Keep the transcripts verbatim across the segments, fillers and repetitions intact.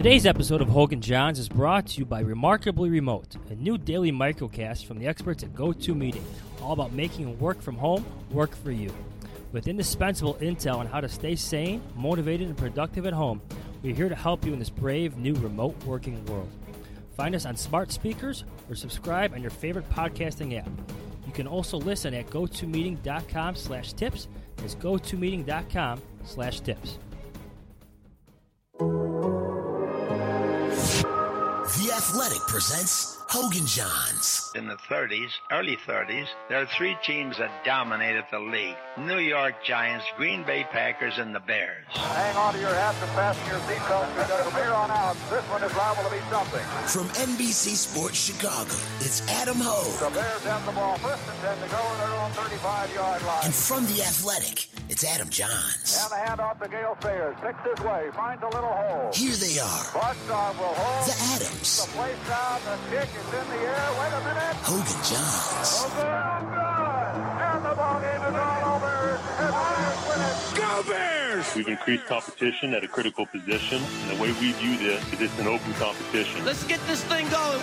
Today's episode of Hogan Johns is brought to you by Remarkably Remote, a new daily microcast from the experts at GoToMeeting, all about making work from home work for you. With indispensable intel on how to stay sane, motivated, and productive at home, we're here to help you in this brave new remote working world. Find us on smart speakers or subscribe on your favorite podcasting app. You can also listen at gotomeeting.com slash tips. That's gotomeeting.com slash tips. The Athletic presents Hogan Johns. In the thirties, early thirties, there are three teams that dominated the league. New York Giants, Green Bay Packers, and the Bears. Hang on to your hats and fasten your seatbelts because from here on out, this one is liable to be something. From N B C Sports Chicago, it's Adam Hogue. The Bears have the ball first and ten to go in their own thirty-five-yard line. And from The Athletic, it's Adam Johns. And the handoff to Gale Sayers. Six his way, finds a little hole. Here they are. Boston will hold. The Adams. The place down, the kick is in the air. Wait a minute. Hogan Johns. Hogan, good. And the ball game is all over. And Bears win it. Go Bears! We've increased competition at a critical position, and the way we view this is it's an open competition. Let's get this thing going.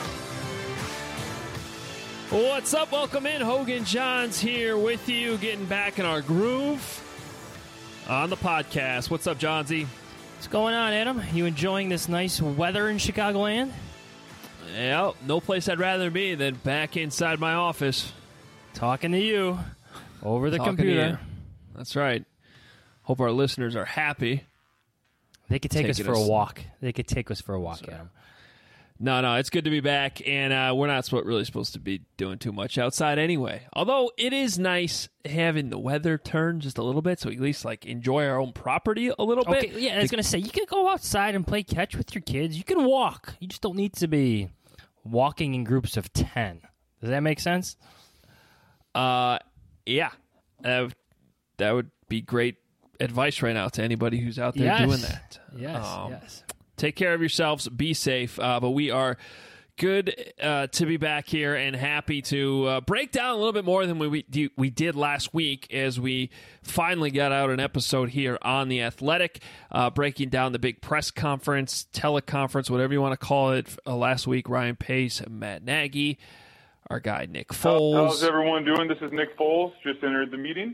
What's up? Welcome in. Hogan Johns here with you, getting back in our groove on the podcast. What's up, Johnsy? What's going on, Adam? You enjoying this nice weather in Chicagoland? Yeah, no place I'd rather be than back inside my office. Talking to you over the Talking computer. to you. That's right. Hope our listeners are happy. They could take us Taking for a us- walk. They could take us for a walk, Sorry. Adam. No, no, it's good to be back, and uh, we're not sp- really supposed to be doing too much outside anyway. Although it is nice having the weather turn just a little bit, so we at least like enjoy our own property a little Okay, bit. yeah, I was going to say, you can go outside and play catch with your kids. You can walk. You just don't need to be walking in groups of ten. Does that make sense? Uh, yeah, that would, that would be great advice right now to anybody who's out there Yes. doing that. Yes, Um, yes. Take care of yourselves. Be safe. Uh, but we are good uh, to be back here and happy to uh, break down a little bit more than we, we we did last week as we finally got out an episode here on The Athletic, uh, breaking down the big press conference, teleconference, whatever you want to call it. Uh, last week, Ryan Pace and Matt Nagy, our guy Nick Foles. How's everyone doing? This is Nick Foles. Just entered the meeting.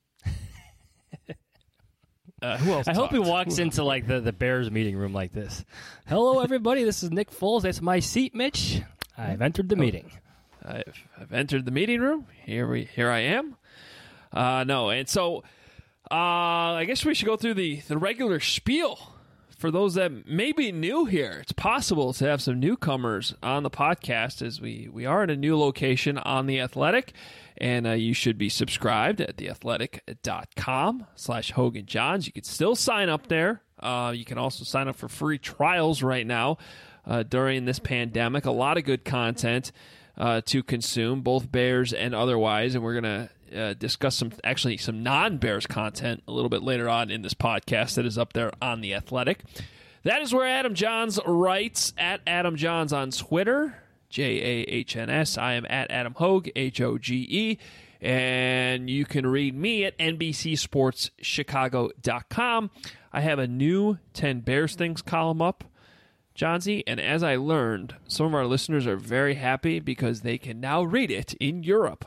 Uh, who else I hope he talked? walks into like the, the Bears meeting room like this. Hello, everybody. This is Nick Foles. That's my seat, Mitch. I've entered the meeting. I've, I've entered the meeting room. Here we, here I am. Uh, no, and so uh, I guess we should go through the, the regular spiel for those that may be new here. It's possible to have some newcomers on the podcast as we, we are in a new location on The Athletic, and uh, you should be subscribed at theathletic.com slash Hogan Johns. You can still sign up there. Uh, you can also sign up for free trials right now uh, during this pandemic. A lot of good content uh, to consume, both Bears and otherwise, and we're going to uh, discuss some actually some non-Bears content a little bit later on in this podcast that is up there on The Athletic. That is where Adam Johns writes, at Adam Johns on Twitter, J A H N S. I am at Adam Hogue, H O G E. And you can read me at N B C Sports Chicago dot com. I have a new ten Bears Things column up, Johnsy, and as I learned, some of our listeners are very happy because they can now read it in Europe.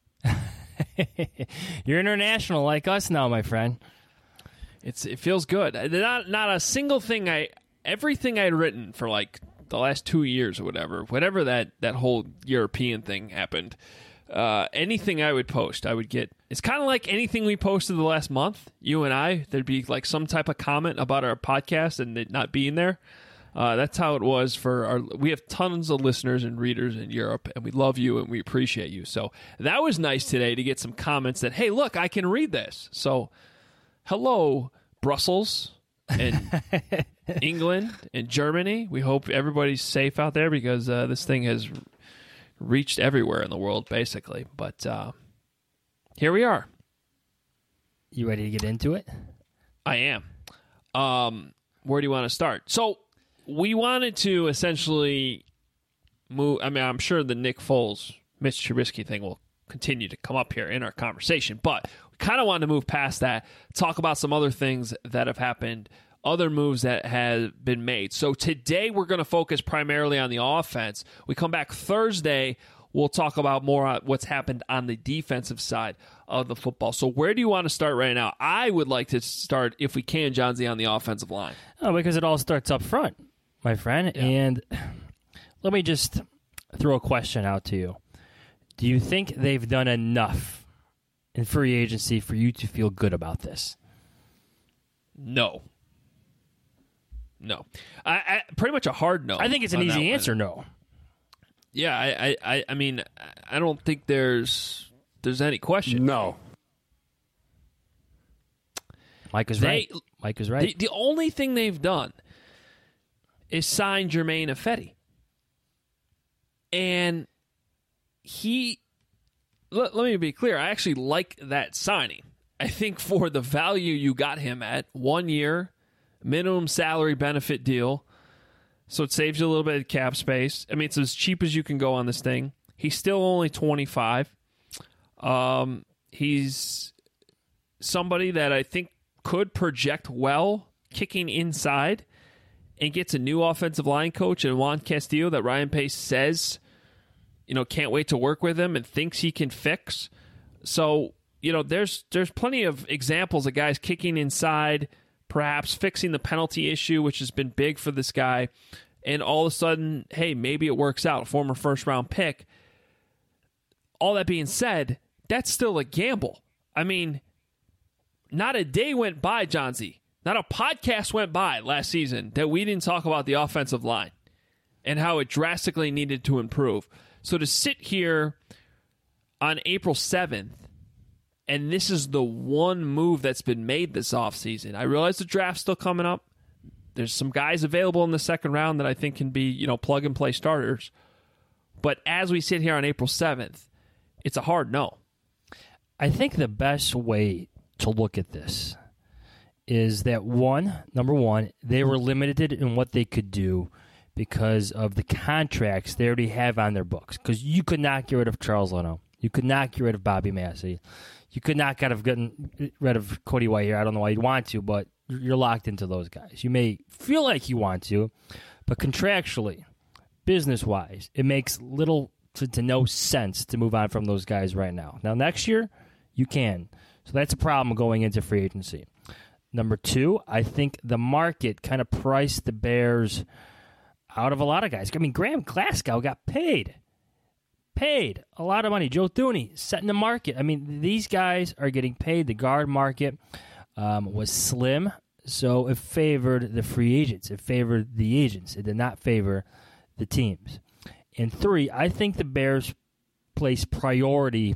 You're international like us now, my friend. It's It feels good. Not, not a single thing I... Everything I'd written for like the last two years or whatever, whenever that, that whole European thing happened, uh, anything I would post, I would get. It's kind of like anything we posted the last month, you and I, there'd be like some type of comment about our podcast and it not being there. Uh, that's how it was for our. We have tons of listeners and readers in Europe, and we love you and we appreciate you. So that was nice today to get some comments that, hey, look, I can read this. So hello, Brussels and England and Germany. We hope everybody's safe out there because uh, this thing has reached everywhere in the world, basically. But uh, here we are. You ready to get into it? I am. Um, where do you want to start? So we wanted to essentially move. I mean, I'm sure the Nick Foles, Mitch Trubisky thing will continue to come up here in our conversation, but we kind of wanted to move past that, talk about some other things that have happened other moves that have been made. So today we're going to focus primarily on the offense. We come back Thursday, we'll talk about more on what's happened on the defensive side of the football. So where do you want to start right now? I would like to start, if we can, John Z, on the offensive line. Oh, because it all starts up front, my friend. Yeah. And let me just throw a question out to you. Do you think they've done enough in free agency for you to feel good about this? No. No. I, I pretty much a hard no. I think it's an easy answer, no. Yeah, I, I, I mean, I don't think there's there's any question. No. Mike is They- right. Mike is right. The, the only thing they've done is sign Jermaine Ifedi. And he, let, let me be clear, I actually like that signing. I think for the value you got him at, one year, minimum salary benefit deal, so it saves you a little bit of cap space. I mean, it's as cheap as you can go on this thing. He's still only twenty-five. Um, he's somebody that I think could project well kicking inside and gets a new offensive line coach in Juan Castillo that Ryan Pace says, you know, can't wait to work with him and thinks he can fix. So, you know, there's there's plenty of examples of guys kicking inside, perhaps fixing the penalty issue, which has been big for this guy. And all of a sudden, hey, maybe it works out. Former first-round pick. All that being said, that's still a gamble. I mean, not a day went by, John Z. Not a podcast went by last season that we didn't talk about the offensive line and how it drastically needed to improve. So to sit here on April seventh, and this is the one move that's been made this offseason. I realize the draft's still coming up. There's some guys available in the second round that I think can be, you know, plug-and-play starters. But as we sit here on April seventh, it's a hard no. I think the best way to look at this is that, one, number one, they were limited in what they could do because of the contracts they already have on their books. Because you could not get rid of Charles Leno. You could not get rid of Bobby Massey. You could not get gotten rid of Cody White here. I don't know why you'd want to, but you're locked into those guys. You may feel like you want to, but contractually, business-wise, it makes little to, to no sense to move on from those guys right now. Now, next year, you can. So that's a problem going into free agency. Number two, I think the market kind of priced the Bears out of a lot of guys. I mean, Graham Glasgow got paid. Paid a lot of money. Joe Thuney setting the market. I mean, these guys are getting paid. The guard market um, was slim, so it favored the free agents. It favored the agents. It did not favor the teams. And three, I think the Bears place priority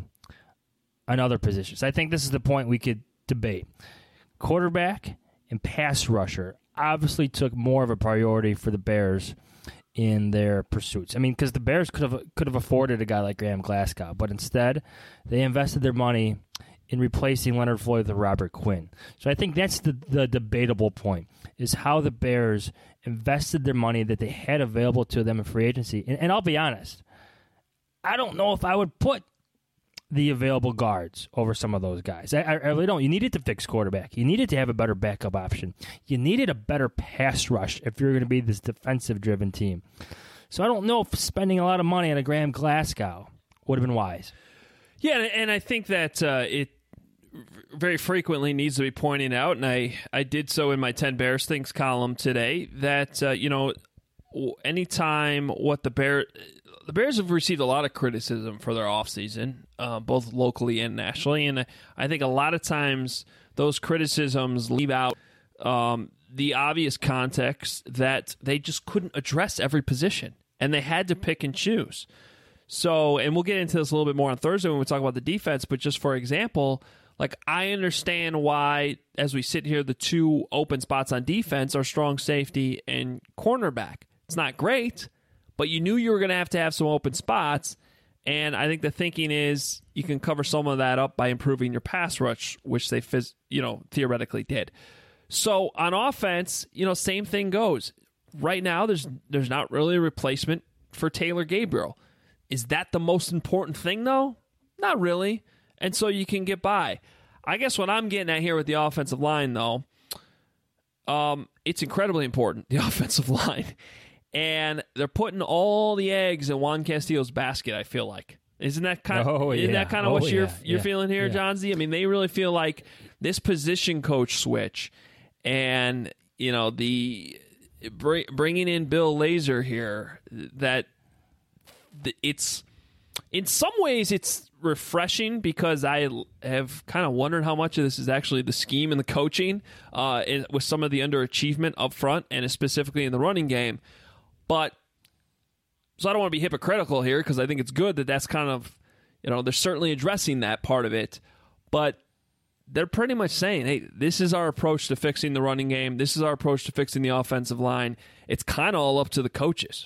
on other positions. I think this is the point we could debate. Quarterback and pass rusher obviously took more of a priority for the Bears in their pursuits. I mean, because the Bears could have could have afforded a guy like Graham Glasgow, but instead they invested their money in replacing Leonard Floyd with Robert Quinn. So I think that's the, the debatable point, is how the Bears invested their money that they had available to them in free agency. And, and I'll be honest, I don't know if I would put the available guards over some of those guys. I, I really don't. You needed to fix quarterback. You needed to have a better backup option. You needed a better pass rush if you're going to be this defensive-driven team. So I don't know if spending a lot of money on a Graham Glasgow would have been wise. Yeah, and I think that uh, it very frequently needs to be pointed out, and I, I did so in my ten Bears Things column today, that, uh, you know, anytime what the Bears... The Bears have received a lot of criticism for their offseason, uh, both locally and nationally, and I think a lot of times those criticisms leave out um, the obvious context that they just couldn't address every position, and they had to pick and choose. So, and we'll get into this a little bit more on Thursday when we talk about the defense, but just for example, like I understand why, as we sit here, the two open spots on defense are strong safety and cornerback. It's not great, but you knew you were going to have to have some open spots, and I think the thinking is you can cover some of that up by improving your pass rush, which they phys- you know theoretically did. So on offense, you know, same thing goes. Right now, there's there's not really a replacement for Taylor Gabriel. Is that the most important thing, though? Not really. And so you can get by. I guess what I'm getting at here with the offensive line, though, um, it's incredibly important, the offensive line. And they're putting all the eggs in Juan Castillo's basket, I feel like. Isn't that kind of, oh, isn't yeah. that kind of oh, what you're yeah. you're yeah. feeling here, yeah. Johnsy? I mean, they really feel like this position coach switch and, you know, the br- bringing in Bill Lazor here, that it's, in some ways, it's refreshing because I have kind of wondered how much of this is actually the scheme and the coaching uh, in, with some of the underachievement up front and specifically in the running game. But so I don't want to be hypocritical here because I think it's good that that's kind of, you know, they're certainly addressing that part of it. But they're pretty much saying, hey, this is our approach to fixing the running game. This is our approach to fixing the offensive line. It's kind of all up to the coaches.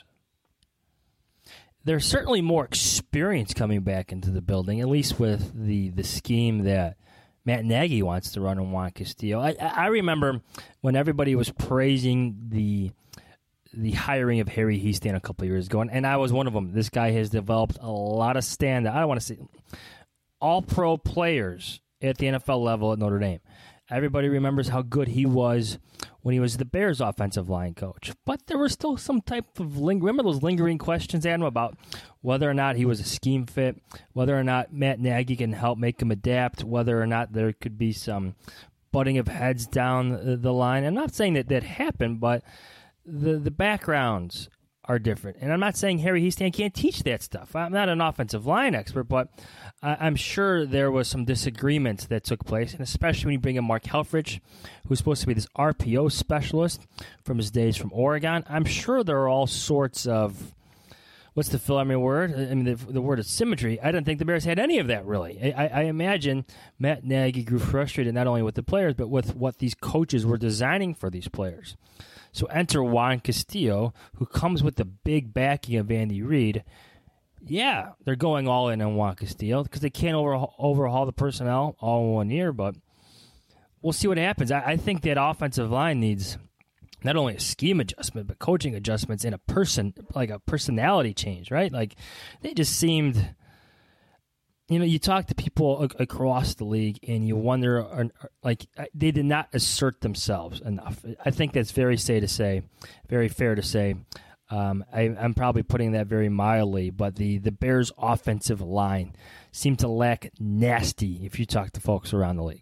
There's certainly more experience coming back into the building, at least with the, the scheme that Matt Nagy wants to run in Juan Castillo. I, I remember when everybody was praising the the hiring of Harry Hiestand a couple of years ago, and, and I was one of them. This guy has developed a lot of stand. I don't want to say all-pro players at the N F L level at Notre Dame. Everybody remembers how good he was when he was the Bears' offensive line coach. But there were still some type of ling- remember those lingering questions, Adam, about whether or not he was a scheme fit, whether or not Matt Nagy can help make him adapt, whether or not there could be some butting of heads down the line. I'm not saying that that happened, but the the backgrounds are different. And I'm not saying Harry Hiestand can't teach that stuff. I'm not an offensive line expert, but I'm sure there was some disagreements that took place, and especially when you bring in Mark Helfrich, who's supposed to be this R P O specialist from his days from Oregon. I'm sure there are all sorts of, what's the Phil Emery word? I mean, the, the word of symmetry. I don't think the Bears had any of that, really. I, I imagine Matt Nagy grew frustrated not only with the players, but with what these coaches were designing for these players. So enter Juan Castillo, who comes with the big backing of Andy Reid. Yeah, they're going all in on Juan Castillo because they can't overhaul, overhaul the personnel all in one year, but we'll see what happens. I, I think that offensive line needs not only a scheme adjustment, but coaching adjustments and a person, like a personality change, right? Like, they just seemed, you know, you talk to people a- across the league and you wonder, are, are, like, they did not assert themselves enough. I think that's very safe to say, very fair to say. Um, I, I'm probably putting that very mildly, but the, the Bears' offensive line seemed to lack nasty if you talk to folks around the league.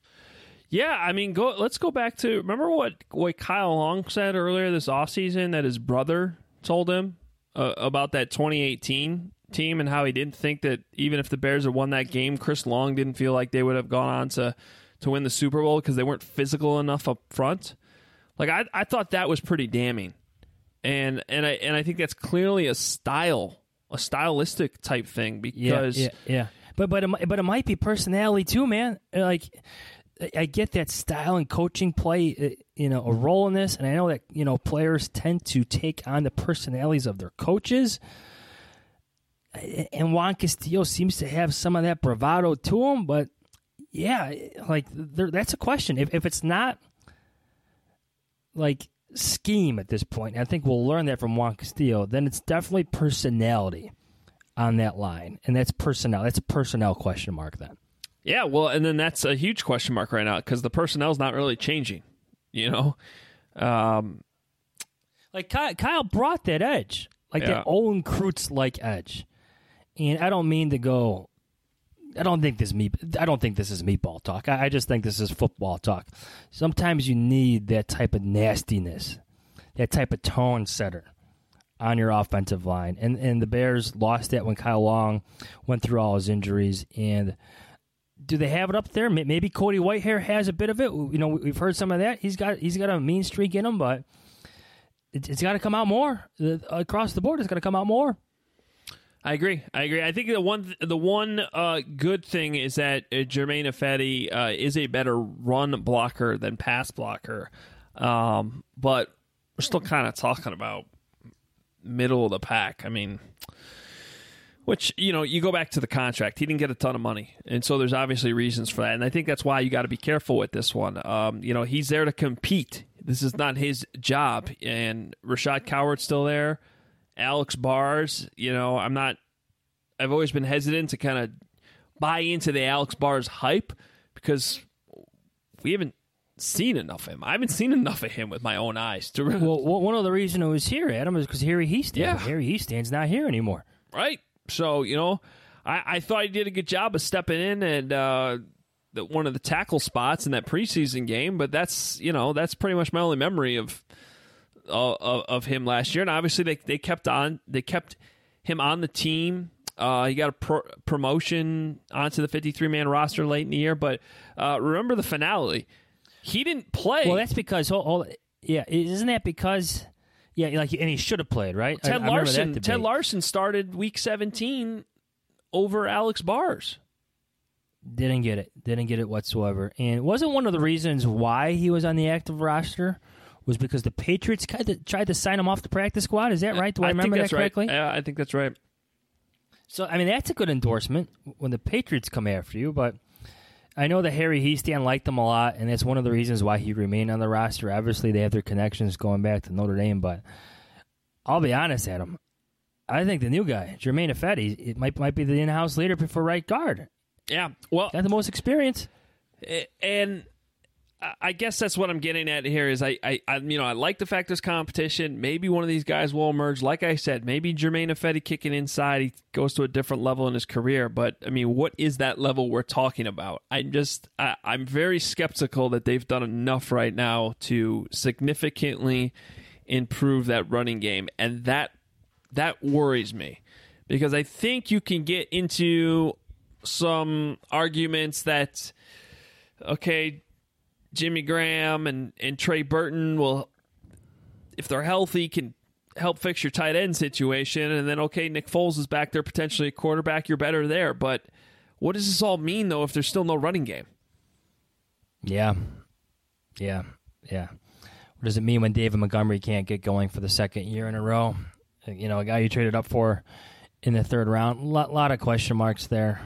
Yeah, I mean, go. Let's go back to, remember what, what Kyle Long said earlier this offseason that his brother told him uh, about that twenty eighteen team and how he didn't think that even if the Bears had won that game, Chris Long didn't feel like they would have gone on to, to win the Super Bowl because they weren't physical enough up front. Like, I, I thought that was pretty damning. And and I and I think that's clearly a style, a stylistic type thing because yeah, yeah, yeah. But but it, but it might be personality too, man. Like, I get that style and coaching play, you know, a role in this, and I know that, you know, players tend to take on the personalities of their coaches. And Juan Castillo seems to have some of that bravado to him, but yeah, like that's a question. If if it's not like scheme at this point, I think we'll learn that from Juan Castillo, then it's definitely personality on that line. And that's personnel. That's a personnel question mark then. Yeah, well, and then that's a huge question mark right now because the personnel's not really changing, you know? Um, like Kyle, Kyle brought that edge, like yeah. that Olin Kreutz-like edge. And I don't mean to go, I don't think this meat, I don't think this is meatball talk. I, I just think this is football talk. Sometimes you need that type of nastiness, that type of tone setter on your offensive line. And and the Bears lost that when Kyle Long went through all his injuries. And do they have it up there? Maybe Cody Whitehair has a bit of it. You know, we've heard some of that. He's got he's got a mean streak in him, but it, it's got to come out more across the board. It's got to come out more. I agree. I agree. I think the one the one uh, good thing is that uh, Germain Ifedi uh, is a better run blocker than pass blocker, um, but we're still kind of talking about middle of the pack. I mean, which, you know, you go back to the contract. He didn't get a ton of money, and so there's obviously reasons for that. And I think that's why you got to be careful with this one. Um, you know, he's there to compete. This is not his job. And Rashad Coward's still there. Alex Bars, you know, I'm not, I've always been hesitant to kind of buy into the Alex Bars hype because we haven't seen enough of him. I haven't seen enough of him with my own eyes. To really, Well, one of the reasons it was here, Adam, is because Harry Heastan. Yeah. Harry Heastan's not here anymore. right? So, you know, I, I thought he did a good job of stepping in and uh, the, one of the tackle spots in that preseason game, but that's, you know, that's pretty much my only memory of uh, of, of him last year. And obviously they, they kept on, they kept him on the team. Uh, he got a pro- promotion onto the fifty-three man roster late in the year, but uh, remember the finale. He didn't play. Well, that's because, hold, hold, yeah, isn't that because, yeah, like, and he should have played, right? Ted I, I remember that Larson. debate. Ted Larson started week seventeen over Alex Bars. Didn't get it. Didn't get it whatsoever. And wasn't one of the reasons why he was on the active roster was because the Patriots kind of tried to sign him off the practice squad? Is that right? Do I, I remember think that's that correctly? Right. Yeah, I think that's right. So, I mean, that's a good endorsement when the Patriots come after you, but I know that Harry Heastan liked him a lot, and that's one of the reasons why he remained on the roster. Obviously, they have their connections going back to Notre Dame, but I'll be honest, Adam. I think the new guy, Germain Ifedi, it might might be the in-house leader for right guard. Yeah, well, Got the most experience. and I guess that's what I'm getting at here is I, I, I, you know, I like the fact there's competition. Maybe one of these guys will emerge. Like I said, maybe Germain Ifedi kicking inside, he goes to a different level in his career. But I mean, what is that level we're talking about? I'm just, I, I'm very skeptical that they've done enough right now to significantly improve that running game, and that that worries me because I think you can get into some arguments that, okay, Jimmy Graham and, and Trey Burton will, if they're healthy, can help fix your tight end situation. And then, okay, Nick Foles is back there, potentially a quarterback. You're better there. But what does this all mean, though, if there's still no running game? Yeah. Yeah. Yeah. What does it mean when David Montgomery can't get going for the second year in a row? You know, a guy you traded up for in the third round. A lot, lot of question marks there.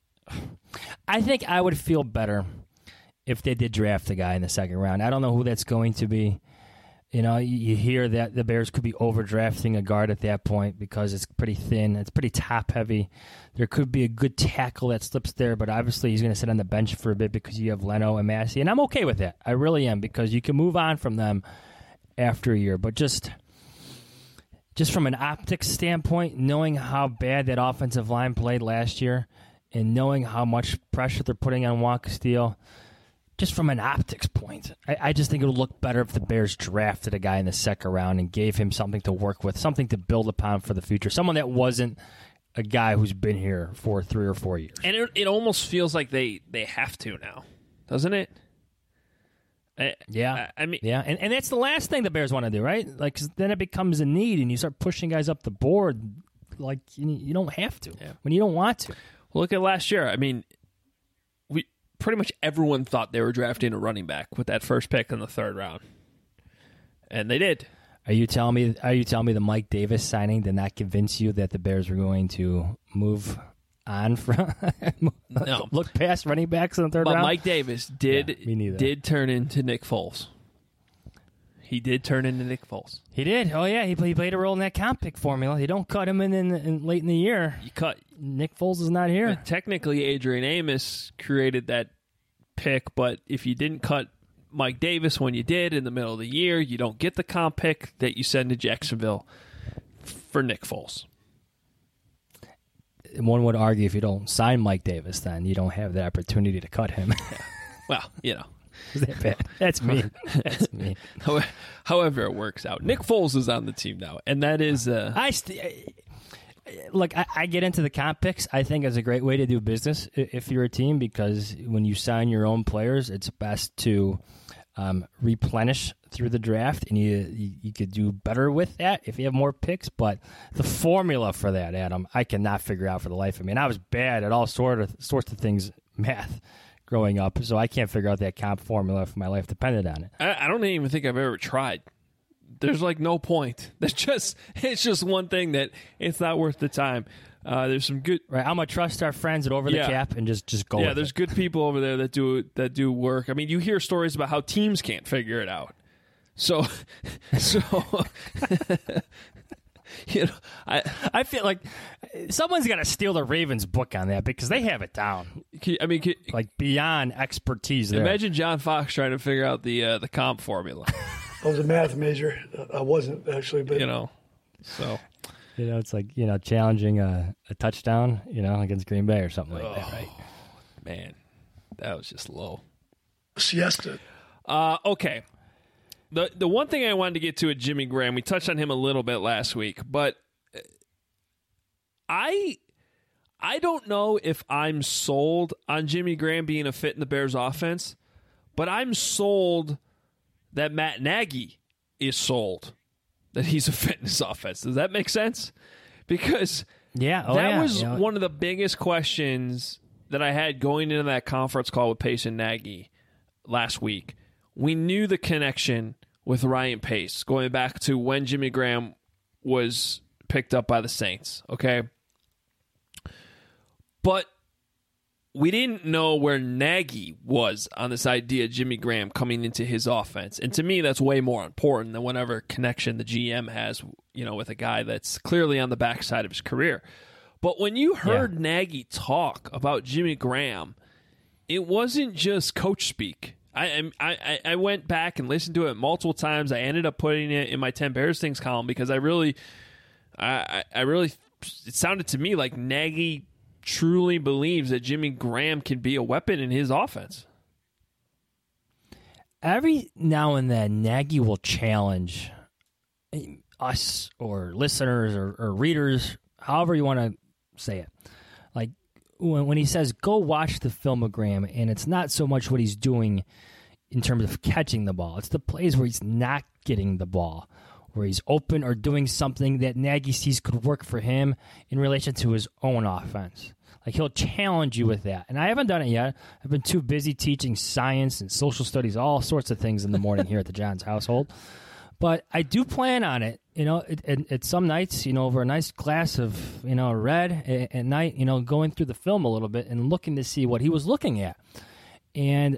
I think I would feel better if they did draft a guy in the second round. I don't know who that's going to be. You know, you, you hear that the Bears could be overdrafting a guard at that point because it's pretty thin. It's pretty top-heavy. There could be a good tackle that slips there, but obviously he's going to sit on the bench for a bit because you have Leno and Massey, and I'm okay with that. I really am because you can move on from them after a year. But just, just from an optics standpoint, knowing how bad that offensive line played last year and knowing how much pressure they're putting on Juan Castillo, just from an optics point, I, I just think it would look better if the Bears drafted a guy in the second round and gave him something to work with, something to build upon for the future, someone that wasn't a guy who's been here for three or four years. And it, it almost feels like they, they have to now, doesn't it? I, yeah. I, I mean, yeah, and, and that's the last thing the Bears want to do, right? Like, 'cause then it becomes a need, and you start pushing guys up the board like you, you don't have to yeah. when you don't want to. Look at last year. I mean, we pretty much everyone thought they were drafting a running back with that first pick in the third round, and they did. Are you telling me? Are you telling me the Mike Davis signing did not convince you that the Bears were going to move on from no. look past running backs in the third but round? Mike Davis did Yeah, me neither. did turn into Nick Foles. He did turn into Nick Foles. He did. Oh yeah, he, he played a role in that comp pick formula. You don't cut him in, in, in late in the year. You cut. Nick Foles is not here. Technically, Adrian Amos created that pick, but if you didn't cut Mike Davis when you did in the middle of the year, you don't get the comp pick that you send to Jacksonville for Nick Foles. One would argue if you don't sign Mike Davis, then you don't have the opportunity to cut him. Well, you know. Is that bad? That's me. That's me. However it works out. Nick Foles is on the team now, and that is... Uh, I st- Look, I, I get into the comp picks. I think it's a great way to do business if you're a team because when you sign your own players, it's best to um, replenish through the draft, and you, you you could do better with that if you have more picks. But the formula for that, Adam, I cannot figure out for the life of me. And I was bad at all sort of sorts of things, math, growing up, so I can't figure out that comp formula if my life depended on it. I, I don't even think I've ever tried. There's like no point. There's just it's just one thing that it's not worth the time. Uh, there's some good. Right, I'm gonna trust our friends at Over the Yeah. Cap and just just go. Yeah, with there's it. good people over there that do that do work. I mean, you hear stories about how teams can't figure it out. So, so you know, I I feel like someone's gonna steal the Ravens book on that because they have it down. Can- I mean, can- like beyond expertise there. imagine John Fox trying to figure out the uh, the comp formula. I was a math major. I wasn't actually, but You know, so You know, it's like, you know, challenging a, a touchdown, you know, against Green Bay or something like that, right? man, that was just low. siesta. Uh, okay. The the one thing I wanted to get to at Jimmy Graham, we touched on him a little bit last week, but I I don't know if I'm sold on Jimmy Graham being a fit in the Bears offense, but I'm sold that Matt Nagy is sold that he's a fit in his offense. Does that make sense? Because Yeah, oh, that yeah. was you know, one of the biggest questions that I had going into that conference call with Pace and Nagy last week. We knew the connection with Ryan Pace going back to when Jimmy Graham was picked up by the Saints, okay? But we didn't know where Nagy was on this idea of Jimmy Graham coming into his offense. And to me, that's way more important than whatever connection the G M has, you know, with a guy that's clearly on the backside of his career. But when you heard yeah. Nagy talk about Jimmy Graham, it wasn't just coach speak. I, I I went back and listened to it multiple times. I ended up putting it in my ten Bears Things column because I really, I, I really, it sounded to me like Nagy truly believes that Jimmy Graham can be a weapon in his offense. Every now and then, Nagy will challenge us or listeners or, or readers, however you want to say it. Like when, when he says, go watch the film of Graham, and it's not so much what he's doing in terms of catching the ball. It's the plays where he's not getting the ball, where he's open or doing something that Nagy sees could work for him in relation to his own offense. Like, he'll challenge you with that. And I haven't done it yet. I've been too busy teaching science and social studies, all sorts of things in the morning here at the Johns household. But I do plan on it, you know, at, at, at some nights, you know, over a nice glass of, you know, red at, at night, you know, going through the film a little bit and looking to see what he was looking at. And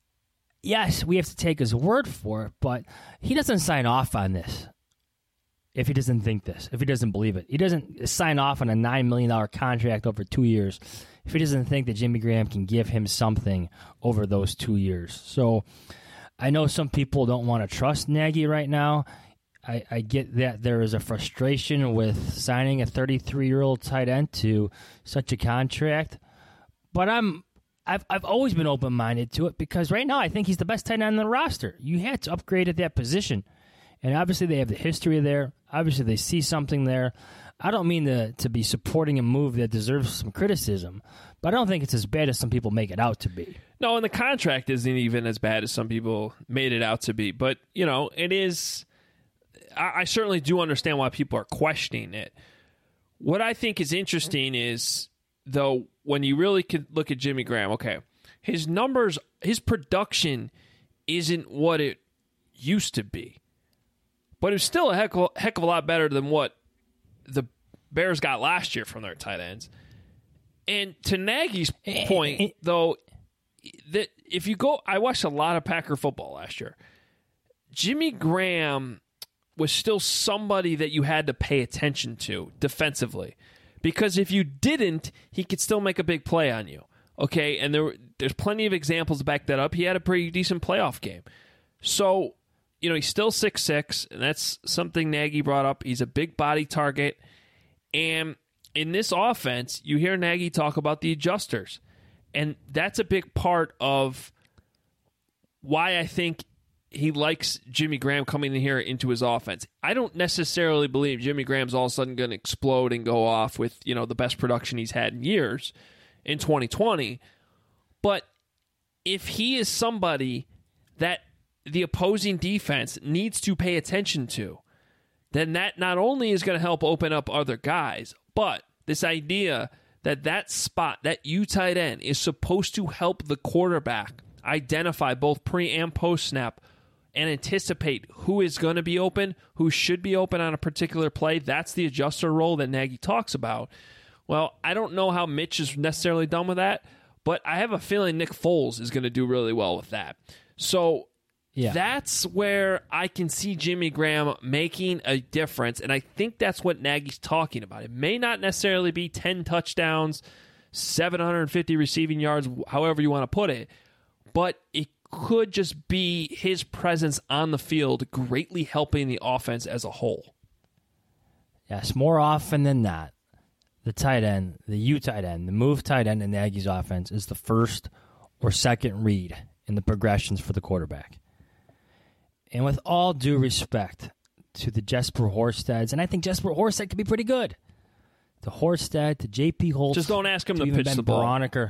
yes, we have to take his word for it, but he doesn't sign off on this if he doesn't think this, if he doesn't believe it. He doesn't sign off on a nine million dollars contract over two years if he doesn't think that Jimmy Graham can give him something over those two years. So I know some people don't want to trust Nagy right now. I, I get that there is a frustration with signing a thirty-three-year-old tight end to such a contract, but I'm I've I've always been open-minded to it because right now I think he's the best tight end on the roster. You had to upgrade at that position, and obviously they have the history there. Obviously they see something there. I don't mean to to be supporting a move that deserves some criticism, but I don't think it's as bad as some people make it out to be. No, and the contract isn't even as bad as some people made it out to be. But, you know, it is. I, I certainly do understand why people are questioning it. What I think is interesting is, though, when you really could look at Jimmy Graham, okay, his numbers, his production isn't what it used to be. But it's still a heck of, heck of a lot better than what the Bears got last year from their tight ends. And to Nagy's point, though, that if you go, I watched a lot of Packer football last year. Jimmy Graham was still somebody that you had to pay attention to defensively, because if you didn't, he could still make a big play on you. Okay, and there there's plenty of examples to back that up. He had a pretty decent playoff game. So, you know, he's still six six, and that's something Nagy brought up. He's a big body target, and in this offense, you hear Nagy talk about the adjusters. And that's a big part of why I think he likes Jimmy Graham coming in here into his offense. I don't necessarily believe Jimmy Graham's all of a sudden going to explode and go off with, you know, the best production he's had in years in twenty twenty. But if he is somebody that the opposing defense needs to pay attention to, then that not only is going to help open up other guys, but this idea that that spot, that U tight end, is supposed to help the quarterback identify both pre and post snap and anticipate who is going to be open, who should be open on a particular play. That's the adjuster role that Nagy talks about. Well, I don't know how Mitch is necessarily done with that, but I have a feeling Nick Foles is going to do really well with that. So yeah. That's where I can see Jimmy Graham making a difference, and I think that's what Nagy's talking about. It may not necessarily be ten touchdowns, seven hundred fifty receiving yards, however you want to put it. But it could just be his presence on the field greatly helping the offense as a whole. Yes, more often than not, the tight end, the U tight end, the move tight end in the Aggies offense is the first or second read in the progressions for the quarterback. And with all due respect to the Jesper Horsteds, and I think Jesper Horsted could be pretty good. To Horsted, to J P. Holtz. Just don't ask him to, to pitch ben the ball. Broniker.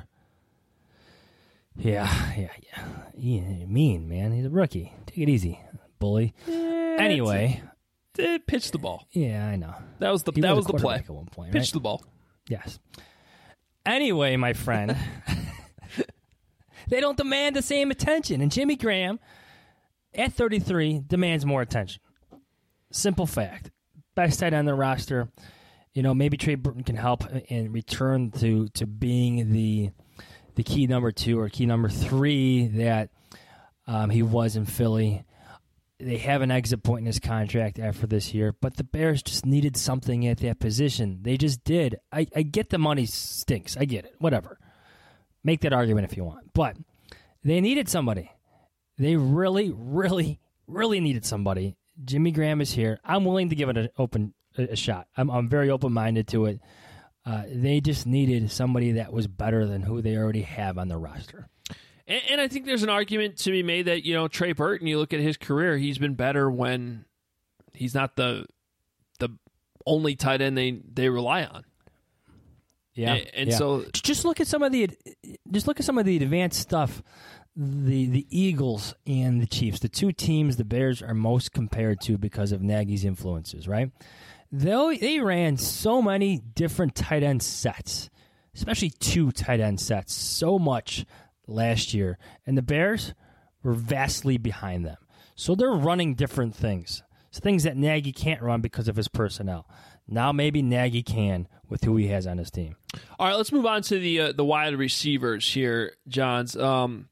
Yeah, yeah, yeah. He, mean, man. He's a rookie. Take it easy, bully. Yeah, anyway. Uh, pitch the ball. Yeah, I know. That was the he that was, was the play. At one point, pitch right? the ball. Yes. Anyway, my friend, they don't demand the same attention. And Jimmy Graham, at thirty-three, demands more attention. Simple fact. Best tight end on the roster. You know, maybe Trey Burton can help and return to, to being the the key number two or key number three that um, he was in Philly. They have an exit point in his contract after this year, but the Bears just needed something at that position. They just did. I, I get the money stinks. I get it. Whatever. Make that argument if you want. But they needed somebody. They really, really, really needed somebody. Jimmy Graham is here. I'm willing to give it an open a shot. I'm, I'm very open-minded to it. Uh, they just needed somebody that was better than who they already have on the roster. And, and I think there's an argument to be made that, you know, Trey Burton, you look at his career, he's been better when he's not the the only tight end they, they rely on. Yeah. And, and yeah. so just look at some of the just look at some of the advanced stuff. The the Eagles and the Chiefs, the two teams the Bears are most compared to because of Nagy's influences, right? They they ran so many different tight end sets, especially two tight end sets, so much last year. And the Bears were vastly behind them. So they're running different things. It's things that Nagy can't run because of his personnel. Now maybe Nagy can with who he has on his team. All right, let's move on to the uh, the wide receivers here, Johns. Um,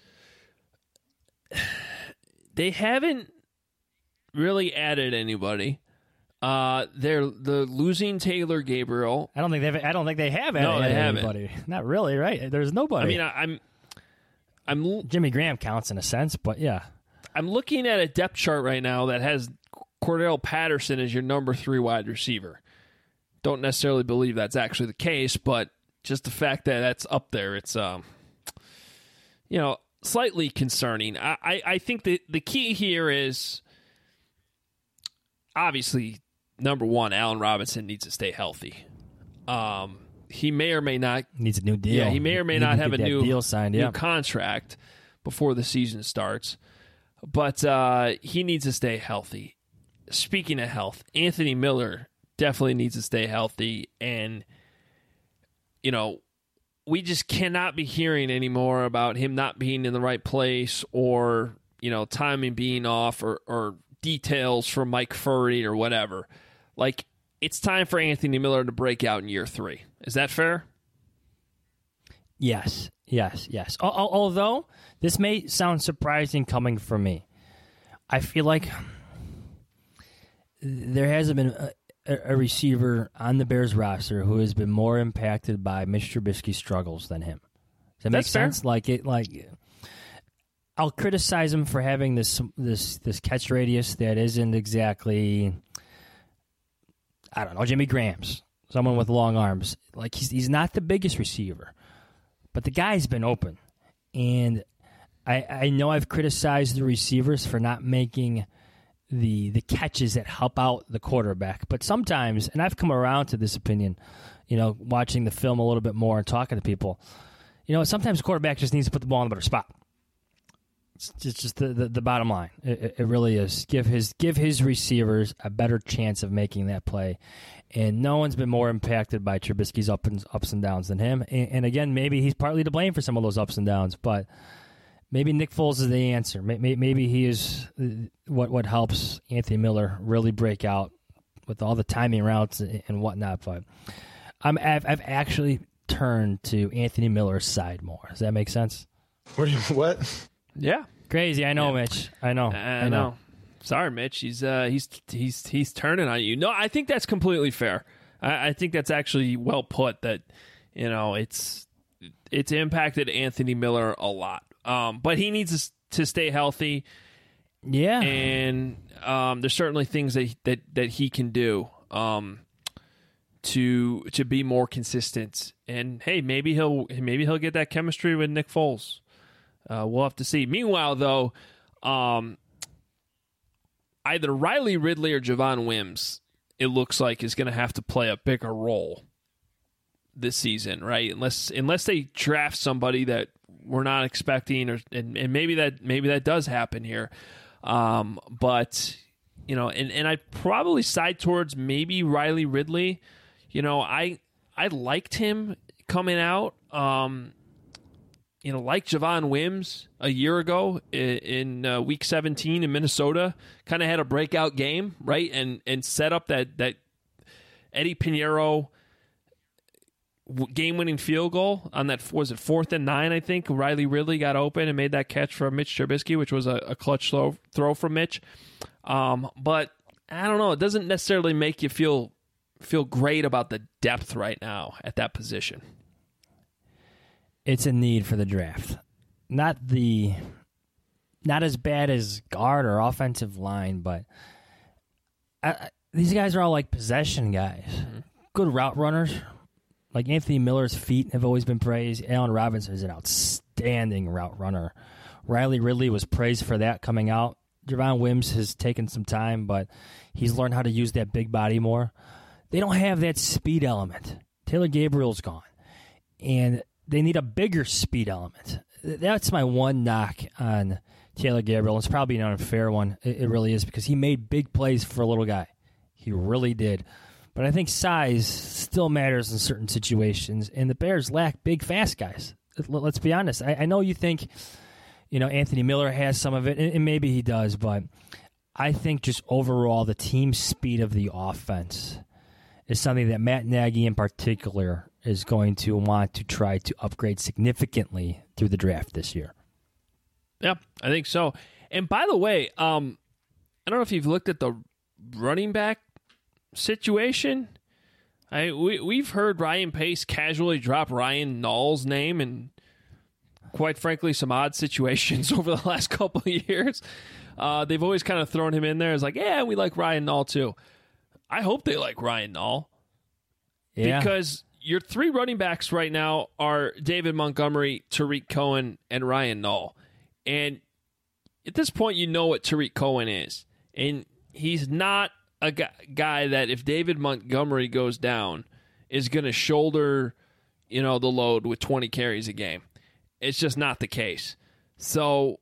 they haven't really added anybody. Uh, they're the losing Taylor Gabriel. I don't think they've. I don't think they have added no, they anybody. Haven't. Not really, right? There's nobody. I mean, I, I'm, I'm Jimmy Graham counts in a sense, but yeah, I'm looking at a depth chart right now that has Cordell Patterson as your number three wide receiver. Don't necessarily believe that's actually the case, but just the fact that that's up there, it's um, you know, slightly concerning. I, I, I think that the key here is obviously number one, Allen Robinson needs to stay healthy. Um, he may or may not needs a new deal. Yeah, he may or may he not have a new deal signed. New Yeah, contract before the season starts, but uh, he needs to stay healthy. Speaking of health, Anthony Miller definitely needs to stay healthy, and you know, we just cannot be hearing anymore about him not being in the right place, or you know, timing being off, or, or details from Mike Furry or whatever. Like, it's time for Anthony Miller to break out in year three. Is that fair? Yes, yes, yes. Al- al- although this may sound surprising coming from me, I feel like there hasn't been a, a receiver on the Bears roster who has been more impacted by Mitch Trubisky's struggles than him. Does that make That's fair. sense? Like it, like I'll criticize him for having this this this catch radius that isn't exactly, I don't know, Jimmy Graham's. Someone with long arms. Like he's he's not the biggest receiver, but the guy's been open, and I I know I've criticized the receivers for not making the the catches that help out the quarterback, but sometimes, and I've come around to this opinion, you know, watching the film a little bit more and talking to people, you know, sometimes the quarterback just needs to put the ball in a better spot. It's just, just the, the, the bottom line. It, it really is. Give his give his receivers a better chance of making that play. And no one's been more impacted by Trubisky's up and, ups and downs than him. And, and again, maybe he's partly to blame for some of those ups and downs, but maybe Nick Foles is the answer. Maybe, maybe he is what, what helps Anthony Miller really break out with all the timing routes and whatnot. But I'm, I've, I've actually turned to Anthony Miller's side more. Does that make sense? What? Do you, what? Yeah. Crazy, I know, Yeah. Mitch. I know. I, I know. know. Sorry, Mitch. He's uh, he's he's he's turning on you. No, I think that's completely fair. I, I think that's actually well put. That you know, it's it's impacted Anthony Miller a lot. Um, but he needs to stay healthy. Yeah, and um, there's certainly things that that that he can do um, to to be more consistent. And hey, maybe he'll maybe he'll get that chemistry with Nick Foles. Uh, we'll have to see. Meanwhile, though, um, either Riley Ridley or Javon Wims, it looks like, is going to have to play a bigger role this season, right? Unless unless they draft somebody that we're not expecting, or and, and maybe that maybe that does happen here. Um, but you know, and, and I'd probably side towards maybe Riley Ridley. You know, I I liked him coming out. Um, you know, like Javon Wims a year ago in, in uh, week seventeen in Minnesota, kind of had a breakout game, right? And and set up that that Eddie Pinheiro game-winning field goal on that, was it fourth and nine, I think. Riley Ridley got open and made that catch from Mitch Trubisky, which was a, a clutch throw, throw from Mitch. Um, but I don't know. It doesn't necessarily make you feel feel great about the depth right now at that position. It's a need for the draft. Not the, not as bad as guard or offensive line, but I, I, these guys are all like possession guys. Mm-hmm. Good route runners. Like Anthony Miller's feet have always been praised. Allen Robinson is an outstanding route runner. Riley Ridley was praised for that coming out. Javon Wims has taken some time, but he's learned how to use that big body more. They don't have that speed element. Taylor Gabriel's gone. And they need a bigger speed element. That's my one knock on Taylor Gabriel. It's probably an unfair one. It really is, because he made big plays for a little guy. He really did. But I think size still matters in certain situations, and the Bears lack big, fast guys. Let's be honest. I, I know you think, you know, Anthony Miller has some of it, and maybe he does, but I think just overall the team speed of the offense is something that Matt Nagy in particular is going to want to try to upgrade significantly through the draft this year. Yeah, I think so. And by the way, um, I don't know if you've looked at the running back situation. I we we've heard Ryan Pace casually drop Ryan Nall's name in, quite frankly, some odd situations over the last couple of years. Uh, they've always kind of thrown him in there as like, yeah, we like Ryan Nall too. I hope they like Ryan Nall. Yeah. Because your three running backs right now are David Montgomery, Tariq Cohen, and Ryan Nall. And at this point, you know what Tariq Cohen is. And he's not a guy that, if David Montgomery goes down, is going to shoulder, you know, the load with twenty carries a game. It's just not the case. So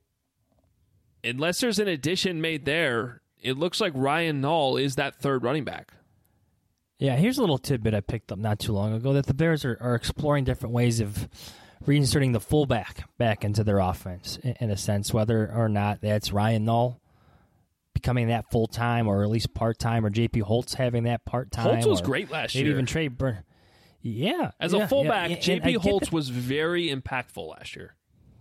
unless there's an addition made there, it looks like Ryan Nall is that third running back. Yeah, here's a little tidbit I picked up not too long ago, that the Bears are, are exploring different ways of reinserting the fullback back into their offense, in, in a sense, whether or not that's Ryan Nall becoming that full-time or at least part-time, or J P Holtz having that part-time. Holtz was great last maybe year. Maybe even Trey Burton. Yeah. As yeah, a fullback, yeah, J P Holtz that. was very impactful last year.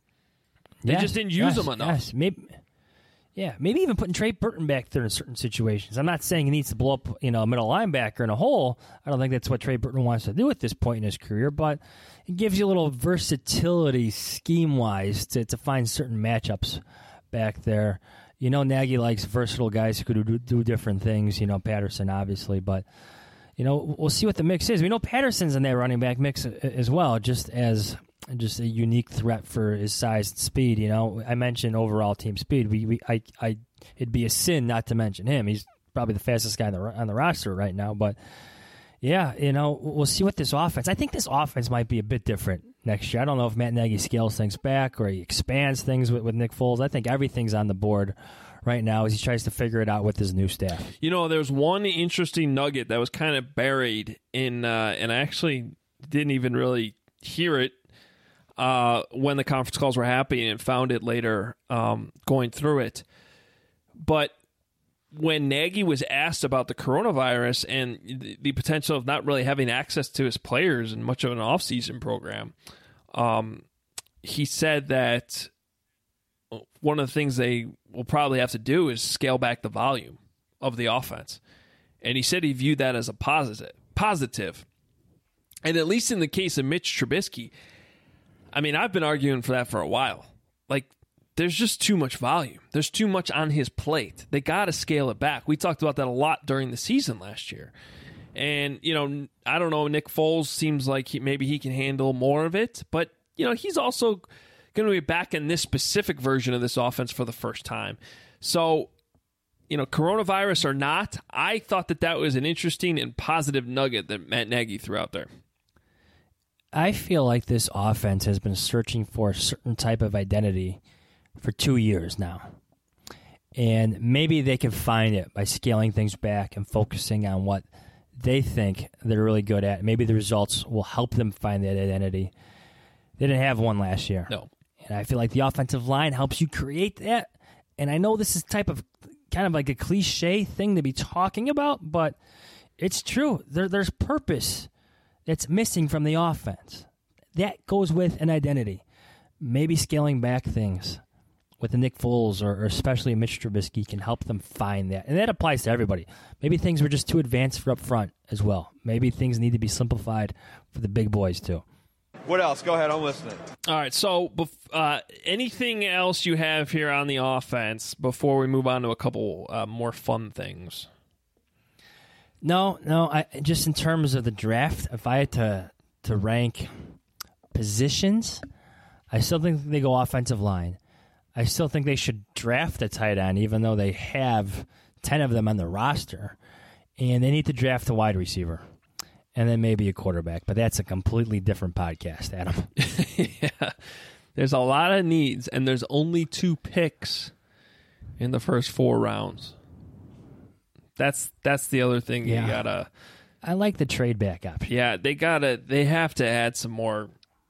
They yes, just didn't use yes, him enough. Yes. Maybe, yeah, maybe even putting Trey Burton back there in certain situations. I'm not saying he needs to blow up, you know, a middle linebacker in a hole. I don't think that's what Trey Burton wants to do at this point in his career, but it gives you a little versatility scheme-wise to, to find certain matchups back there. You know, Nagy likes versatile guys who could do, do different things. You know, Patterson, obviously. But, you know, we'll see what the mix is. We know Patterson's in that running back mix as well, just as just a unique threat for his size and speed. You know, I mentioned overall team speed. We, we, I, I, it'd be a sin not to mention him. He's probably the fastest guy on the, on the roster right now. But, yeah, you know, we'll see what this offense. I think this offense might be a bit different next year. I don't know if Matt Nagy scales things back or he expands things with, with Nick Foles. I think everything's on the board right now as he tries to figure it out with his new staff. You know, there's one interesting nugget that was kind of buried in, uh, and I actually didn't even really hear it uh, when the conference calls were happening, and found it later um, going through it. But when Nagy was asked about the coronavirus and the, the potential of not really having access to his players in much of an offseason program, um, he said that one of the things they will probably have to do is scale back the volume of the offense. And he said he viewed that as a positive. Positive. And at least in the case of Mitch Trubisky, I mean, I've been arguing for that for a while. Like, there's just too much volume. There's too much on his plate. They got to scale it back. We talked about that a lot during the season last year. And, you know, I don't know, Nick Foles seems like he, maybe he can handle more of it. But, you know, he's also going to be back in this specific version of this offense for the first time. So, you know, coronavirus or not, I thought that that was an interesting and positive nugget that Matt Nagy threw out there. I feel like this offense has been searching for a certain type of identity for two years now. And maybe they can find it by scaling things back and focusing on what they think they're really good at. Maybe the results will help them find that identity. They didn't have one last year. No. And I feel like the offensive line helps you create that. And I know this is type of kind of like a cliche thing to be talking about, but it's true. There, there's purpose that's missing from the offense. That goes with an identity. Maybe scaling back things with the Nick Foles or, or especially Mitch Trubisky can help them find that. And that applies to everybody. Maybe things were just too advanced for up front as well. Maybe things need to be simplified for the big boys too. What else? Go ahead, I'm listening. All right, so uh, anything else you have here on the offense before we move on to a couple uh, more fun things? No, no. I just in terms of the draft, if I had to to rank positions, I still think they go offensive line. I still think they should draft a tight end, even though they have ten of them on the roster, and they need to draft a wide receiver. And then maybe a quarterback, but that's a completely different podcast, Adam. Yeah, there's a lot of needs, and there's only two picks in the first four rounds. That's that's the other thing yeah. you gotta. I like the trade back option. Yeah, they gotta. They have to add some more,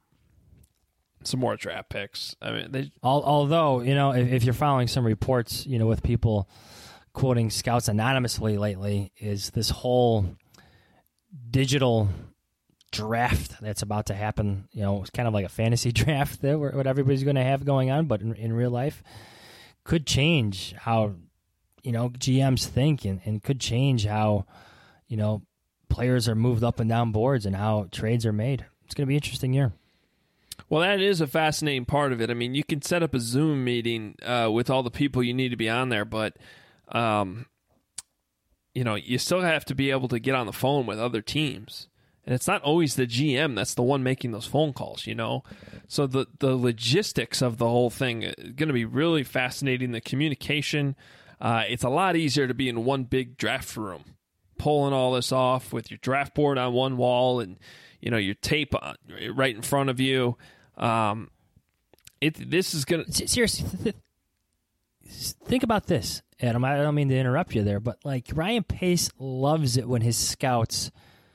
some more draft picks. I mean, they. Although you know, if, if you're following some reports, you know, with people quoting scouts anonymously lately, is this whole digital draft that's about to happen. You know, it's kind of like a fantasy draft that what everybody's going to have going on, but in, in real life, could change how, you know, G Ms think and, and could change how, you know, players are moved up and down boards and how trades are made. It's going to be an interesting year. Well, that is a fascinating part of it. I mean, you can set up a Zoom meeting uh, with all the people you need to be on there, but um, you know, you still have to be able to get on the phone with other teams. And it's not always the G M that's the one making those phone calls, you know? So the, the logistics of the whole thing is going to be really fascinating. The communication, uh, it's a lot easier to be in one big draft room, pulling all this off with your draft board on one wall and, you know, your tape on, right in front of you. Um, it This is going to... Seriously, th- think about this, Adam. I don't mean to interrupt you there, but like Ryan Pace loves it when his scouts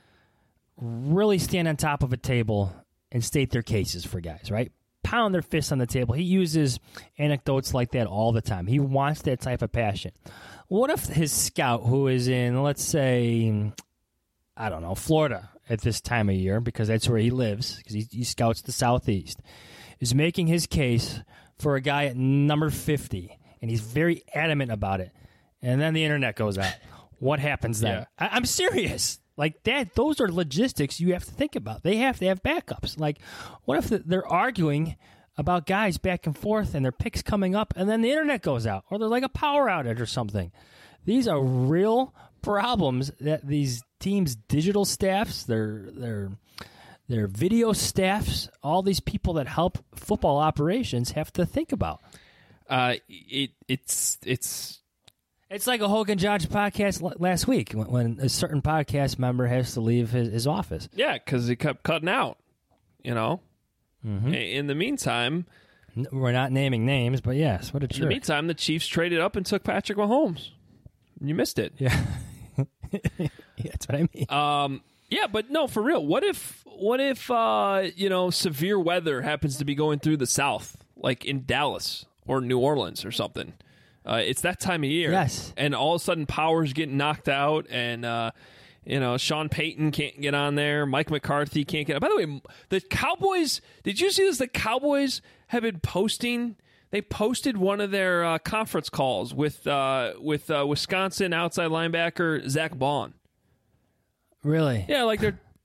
really stand on top of a table and state their cases for guys, right? Pound their fists on the table. He uses anecdotes like that all the time. He wants that type of passion. What if his scout, who is in, let's say, I don't know, Florida at this time of year, because that's where he lives, because he, he scouts the Southeast, is making his case for a guy at number fifty, and he's very adamant about it, and then the internet goes out. What happens then? Yeah. I, I'm serious. Like that, those are logistics you have to think about. They have to have backups. Like, what if they're arguing about guys back and forth and their picks coming up, and then the internet goes out, or there's like a power outage or something? These are real problems that these teams' digital staffs, their their their video staffs, all these people that help football operations have to think about. Uh, it it's it's. It's like a Hogan Johnson podcast l- last week when, when a certain podcast member has to leave his, his office. Yeah, because he kept cutting out, you know. Mm-hmm. In the meantime... We're not naming names, but yes, what a jerk. In the meantime, the Chiefs traded up and took Patrick Mahomes. You missed it. Yeah. Yeah, that's what I mean. Um, yeah, but no, for real. What if, what if uh, you know, severe weather happens to be going through the South, like in Dallas or New Orleans or something? Uh, it's that time of year. Yes. And all of a sudden power's getting knocked out and, uh, you know, Sean Payton can't get on there. Mike McCarthy can't get on. By the way, the Cowboys, did you see this? The Cowboys have been posting, they posted one of their uh, conference calls with uh, with uh, Wisconsin outside linebacker Zach Bond. Really? Yeah, like they're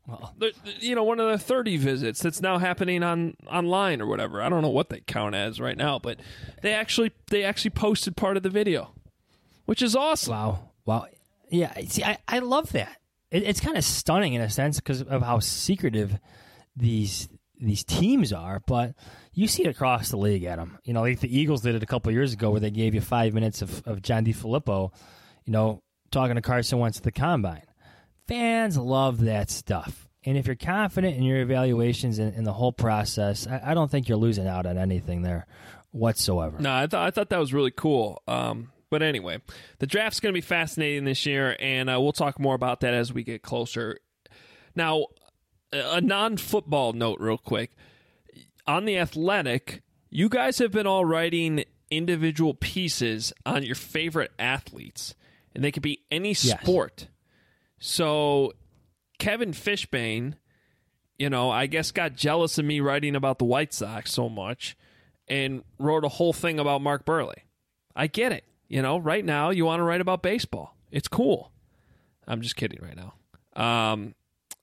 Well, the, the, you know, one of the thirty visits that's now happening on online or whatever. I don't know what they count as right now, but they actually they actually posted part of the video, which is awesome. wow. Wow. Yeah, see, I, I love that. It, it's kind of stunning in a sense because of how secretive these these teams are, but you see it across the league, Adam. You know, like the Eagles did it a couple of years ago where they gave you five minutes of, of John DeFilippo, you know, talking to Carson Wentz at the Combine. Fans love that stuff. And if you're confident in your evaluations and, and the whole process, I, I don't think you're losing out on anything there whatsoever. No, I thought I thought that was really cool. Um, but anyway, the draft's going to be fascinating this year, and uh, we'll talk more about that as we get closer. Now, a non-football note real quick. On The Athletic, you guys have been all writing individual pieces on your favorite athletes, and they could be any sport. Yes. So Kevin Fishbane, you know, I guess got jealous of me writing about the White Sox so much and wrote a whole thing about Mark Burley. I get it. You know, right now you want to write about baseball. It's cool. I'm just kidding right now. Um,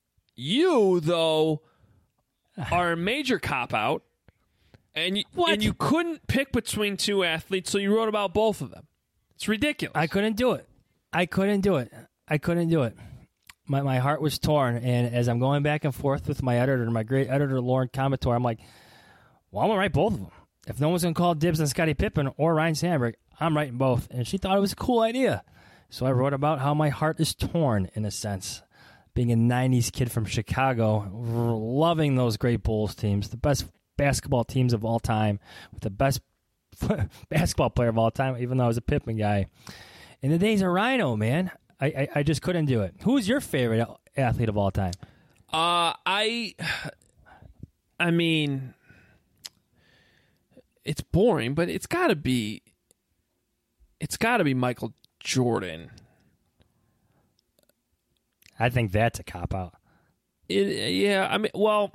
you, though, are a major cop-out, and you, and you couldn't pick between two athletes, so you wrote about both of them. It's ridiculous. I couldn't do it. I couldn't do it. I couldn't do it. My my heart was torn, and as I'm going back and forth with my editor, my great editor, Lauren Comator, I'm like, well, I'm going to write both of them. If no one's going to call dibs on Scottie Pippen or Ryan Sandberg, I'm writing both. And she thought it was a cool idea. So I wrote about how my heart is torn, in a sense. Being a nineties kid from Chicago, loving those great Bulls teams, the best basketball teams of all time, with the best basketball player of all time, even though I was a Pippen guy. In the days of Rhino, man, I, I, I just couldn't do it. Who's your favorite athlete of all time? Uh, I, I mean, it's boring, but it's got to be, it's got to be Michael Jordan. I think that's a cop-out. It, yeah, I mean, well,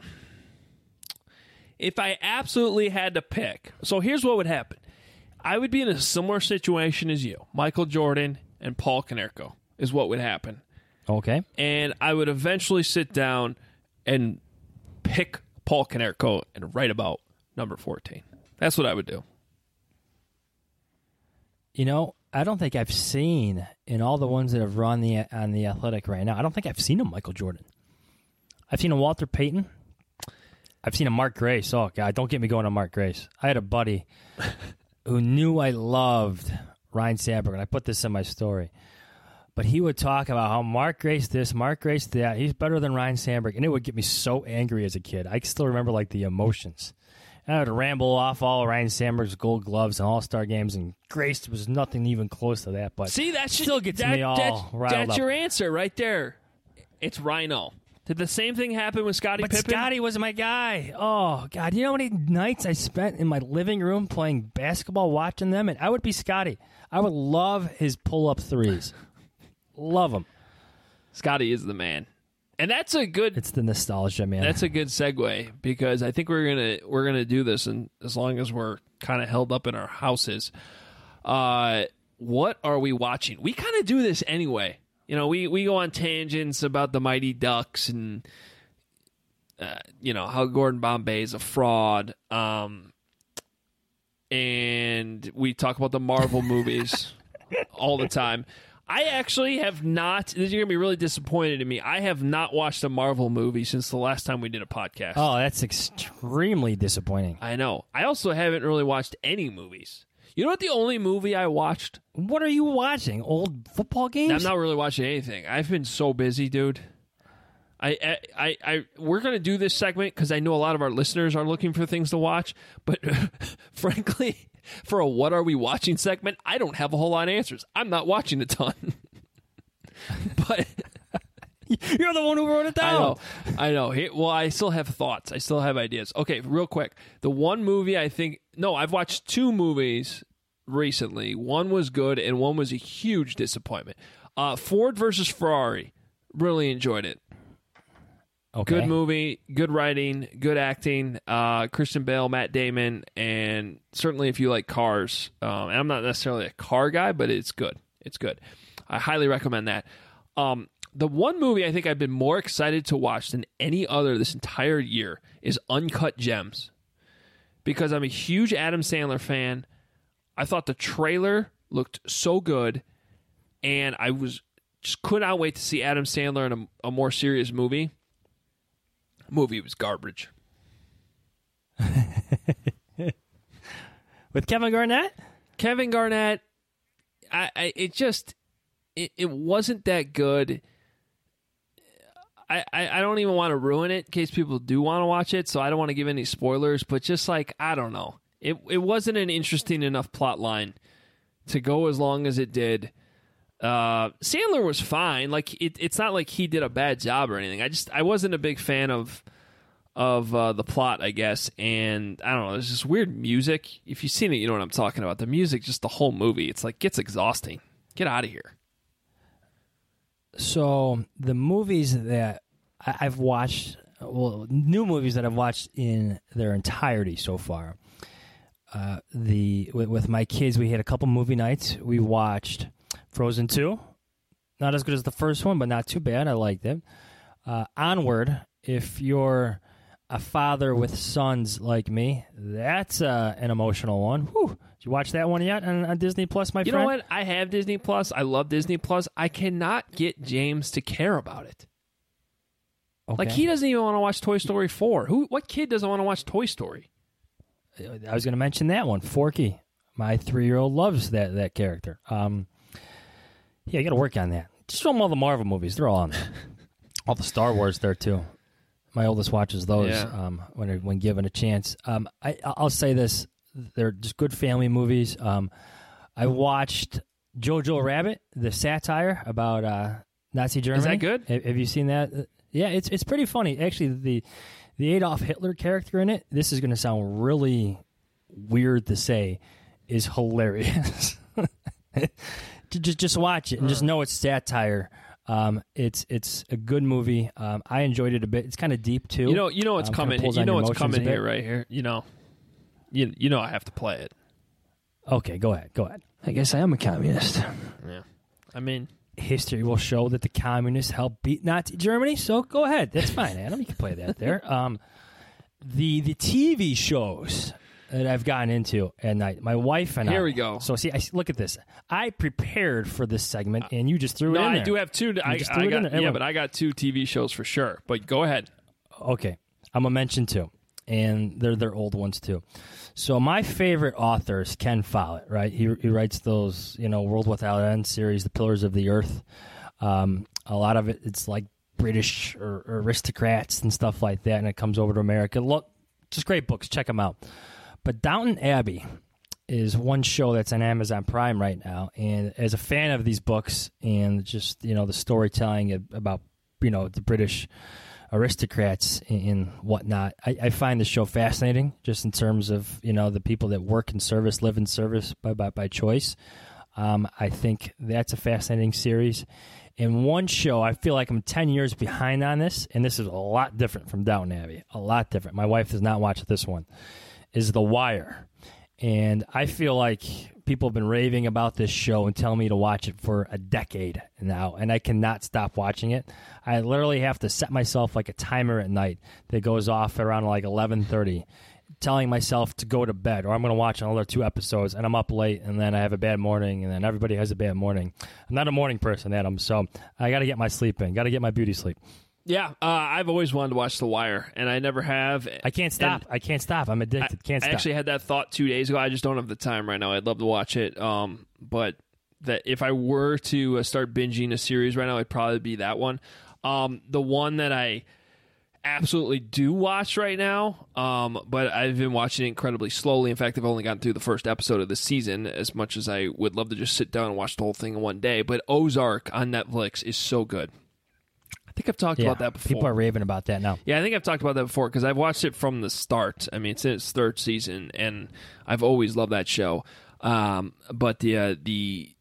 if I absolutely had to pick, so here's what would happen. I would be in a similar situation as you. Michael Jordan and Paul Konerko is what would happen. Okay. And I would eventually sit down and pick Paul Konerko and write about number fourteen. That's what I would do. You know, I don't think I've seen, in all the ones that have run the on the Athletic right now, I don't think I've seen a Michael Jordan. I've seen a Walter Payton. I've seen a Mark Grace. Oh, God, don't get me going on Mark Grace. I had a buddy who knew I loved Ryan Sandberg, and I put this in my story. But he would talk about how Mark Grace this, Mark Grace that, he's better than Ryan Sandberg, and it would get me so angry as a kid. I still remember, like, the emotions. And I would ramble off all Ryan Sandberg's Gold Gloves and All-Star games, and Grace was nothing even close to that. But see, that still gets that, me all that's, riled That's up. your answer right there. It's Rhino. Did the same thing happen with Scottie But Pippen? Scottie was my guy. Oh, God. You know how many nights I spent in my living room playing basketball, watching them? And I would be Scottie. I would love his pull-up threes. Love him. Scottie is the man. And that's a good It's the nostalgia, man. That's a good segue, because I think we're gonna we're gonna do this, and as long as we're kind of held up in our houses. Uh, what are we watching? We kind of do this anyway. You know, we, we go on tangents about the Mighty Ducks and uh, you know how Gordon Bombay is a fraud, um, and we talk about the Marvel movies all the time. I actually have not, this is going to be really disappointed in me, I have not watched a Marvel movie since the last time we did a podcast. Oh, that's extremely disappointing. I know. I also haven't really watched any movies. You know what the only movie I watched? What are you watching? Old football games? I'm not really watching anything. I've been so busy, dude. I, I, I, I we're going to do this segment because I know a lot of our listeners are looking for things to watch, but frankly, for a What Are We Watching segment, I don't have a whole lot of answers. I'm not watching a ton. But you're the one who wrote it down. I know. I know. Hey, well, I still have thoughts. I still have ideas. Okay, real quick. The one movie I think... No, I've watched two movies recently. One was good, and one was a huge disappointment. Uh, Ford versus Ferrari. Really enjoyed it. Okay. Good movie, good writing, good acting. Uh, Christian Bale, Matt Damon, and certainly if you like cars. Um, and I'm not necessarily a car guy, but it's good. It's good. I highly recommend that. Um, The one movie I think I've been more excited to watch than any other this entire year is Uncut Gems. Because I'm a huge Adam Sandler fan. I thought the trailer looked so good, and I was just could not wait to see Adam Sandler in a, a more serious movie. The movie was garbage. With Kevin Garnett? Kevin Garnett, I, I it just it, it wasn't that good. I, I, I don't even want to ruin it in case people do want to watch it, so I don't want to give any spoilers, but just like, I don't know. It it wasn't an interesting enough plot line to go as long as it did. Uh, Sandler was fine. Like it, it's not like he did a bad job or anything. I just I wasn't a big fan of of uh, the plot, I guess, and I don't know. There's this weird music. If you've seen it, you know what I'm talking about. The music, just the whole movie, it's like gets exhausting. Get out of here. So the movies that I- I've watched, well, new movies that I've watched in their entirety so far. Uh, the with, with my kids, we had a couple movie nights. We watched Frozen two. Not as good as the first one, but not too bad. I liked it. Uh, Onward, if you're a father with sons like me, that's uh, an emotional one. Whew. Did you watch that one yet on, on Disney Plus, my you friend? You know what? I have Disney Plus. I love Disney Plus. I cannot get James to care about it. Okay. Like, he doesn't even want to watch Toy Story four. Who? What kid doesn't want to watch Toy Story? I was going to mention that one. Forky. My three-year-old loves that, that character. Um, yeah, you got to work on that. Just show them all the Marvel movies. They're all on there. All the Star Wars there, too. My oldest watches those yeah. um, when when given a chance. Um, I, I'll say this. They're just good family movies. Um, I watched Jojo Rabbit, the satire about uh, Nazi Germany. Is that good? Have, have you seen that? Yeah, it's it's pretty funny. Actually, the the Adolf Hitler character in it, this is going to sound really weird to say, is hilarious. just just watch it and just know it's satire. Um, it's it's a good movie. Um, I enjoyed it a bit. It's kind of deep too. You know, you know what's um, coming. You know what's coming here, right here. You know, you you know I have to play it. Okay, go ahead. Go ahead. I guess I am a communist. Yeah, I mean, history will show that the communists helped beat Nazi Germany. So go ahead. That's fine, Adam. You can play that there. Um, the the T V shows that I've gotten into at night. My wife and here I. we go. So see, I, look at this. I prepared for this segment, and you just threw no, it in I there. do have two. You I, just I threw it got in there. yeah, but I got two T V shows for sure. But go ahead. Okay, I'm gonna mention two, and they're they're old ones too. So my favorite author is Ken Follett. Right, he he writes those you know World Without End series, The Pillars of the Earth. Um, a lot of it, it's like British or, or aristocrats and stuff like that, and it comes over to America. Look, just great books. Check them out. But Downton Abbey is one show that's on Amazon Prime right now, and as a fan of these books and just you know the storytelling about you know the British aristocrats and whatnot, I, I find the show fascinating. Just in terms of you know the people that work in service, live in service by by, by choice. Um, I think that's a fascinating series. In one show, I feel like I'm ten years behind on this, and this is a lot different from Downton Abbey. A lot different. My wife does not watch this one. Is The Wire. And I feel like people have been raving about this show and telling me to watch it for a decade now, and I cannot stop watching it. I literally have to set myself like a timer at night that goes off around like eleven thirty, telling myself to go to bed, or I'm going to watch another two episodes, and I'm up late, and then I have a bad morning, and then everybody has a bad morning. I'm not a morning person, Adam, so I got to get my sleep in. Got to get my beauty sleep. Yeah, uh, I've always wanted to watch The Wire, and I never have. I can't stop. And I can't stop. I'm addicted. I, can't stop. I actually had that thought two days ago. I just don't have the time right now. I'd love to watch it, um, but that if I were to uh, start binging a series right now, it'd probably be that one. Um, the one that I absolutely do watch right now, um, but I've been watching it incredibly slowly. In fact, I've only gotten through the first episode of the season, as much as I would love to just sit down and watch the whole thing in one day. But Ozark on Netflix is so good. I think I've talked yeah, about that before. People are raving about that now. Yeah, I think I've talked about that before because I've watched it from the start. I mean, it's in its third season, and I've always loved that show. Um, but the uh, the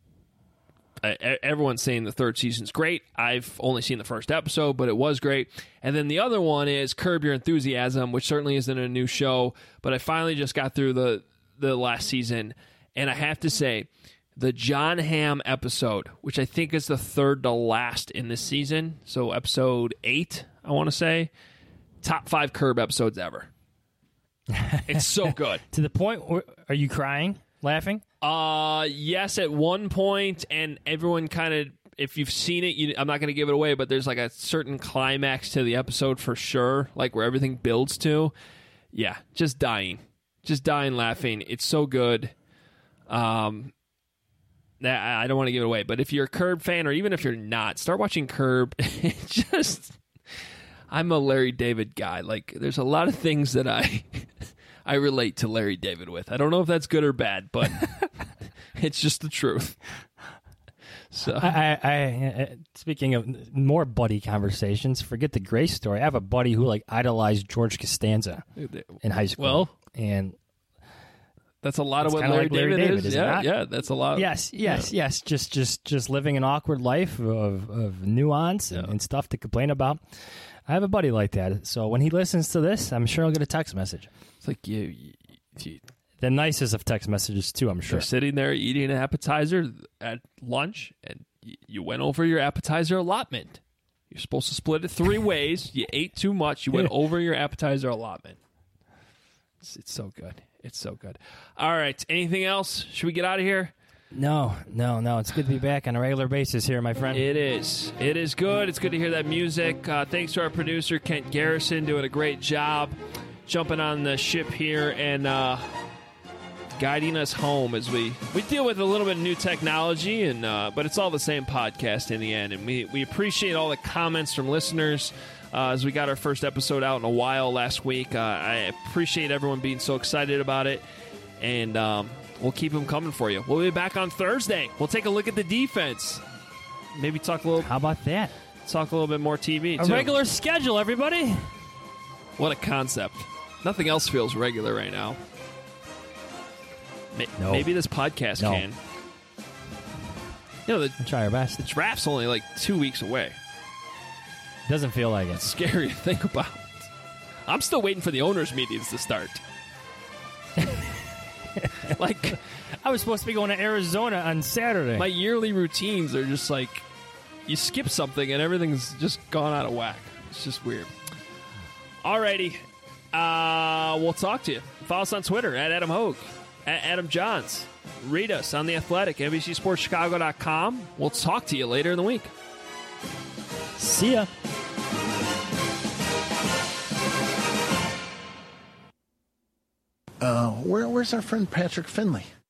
uh, everyone's saying the third season's great. I've only seen the first episode, but it was great. And then the other one is Curb Your Enthusiasm, which certainly isn't a new show, but I finally just got through the the last season, and I have to say, the John Hamm episode, which I think is the third to last in this season. So episode eight, I want to say. Top five Curb episodes ever. It's so good. To the point where, are you crying, laughing? Uh, yes, at one point, and everyone kind of, if you've seen it, you, I'm not going to give it away, but there's like a certain climax to the episode for sure, like where everything builds to. Yeah, just dying. Just dying laughing. It's so good. Um, I don't want to give it away, but if you're a Curb fan, or even if you're not, start watching Curb. It just... I'm a Larry David guy. Like, there's a lot of things that I I relate to Larry David with. I don't know if that's good or bad, but it's just the truth. So, I, I, I, speaking of more buddy conversations, forget the Grace story. I have a buddy who like idolized George Costanza in high school. Well, and that's a lot of what Larry, Larry, like Larry David, David is. is. Yeah, It yeah, that's a lot. Yes, yes, yeah. yes. Just, just, just living an awkward life of, of nuance and, yeah. and stuff to complain about. I have a buddy like that. So when he listens to this, I'm sure I'll get a text message. It's like you, you, you the nicest of text messages too. I'm sure. You're sitting there eating an appetizer at lunch, and you, you went over your appetizer allotment. You're supposed to split it three ways. You ate too much. You went over your appetizer allotment. It's, it's so good. It's so good. All right. Anything else? Should we get out of here? No, no, no. It's good to be back on a regular basis here, my friend. It is. It is good. It's good to hear that music. Uh, thanks to our producer, Kent Garrison, doing a great job jumping on the ship here and uh, guiding us home as we, we deal with a little bit of new technology, and uh, but it's all the same podcast in the end. And we, we appreciate all the comments from listeners uh, as we got our first episode out in a while last week. Uh, I appreciate everyone being so excited about it. And... Um, We'll keep them coming for you. We'll be back on Thursday. We'll take a look at the defense. Maybe talk a little. How about that? Talk a little bit more T V. A too. regular schedule, everybody. What a concept. Nothing else feels regular right now. No. Maybe this podcast no. can. You know, the, we'll try our best. The draft's only like two weeks away. Doesn't feel like it. It's scary to think about. I'm still waiting for the owners' meetings to start. Like, I was supposed to be going to Arizona on Saturday. My yearly routines are just like, you skip something and everything's just gone out of whack. It's just weird. Alrighty. Uh, we'll talk to you. Follow us on Twitter, at Adam Hogue, at Adam Johns. Read us on The Athletic, N B C Sports Chicago dot com. We'll talk to you later in the week. See ya. Uh, where, where's our friend Patrick Finley?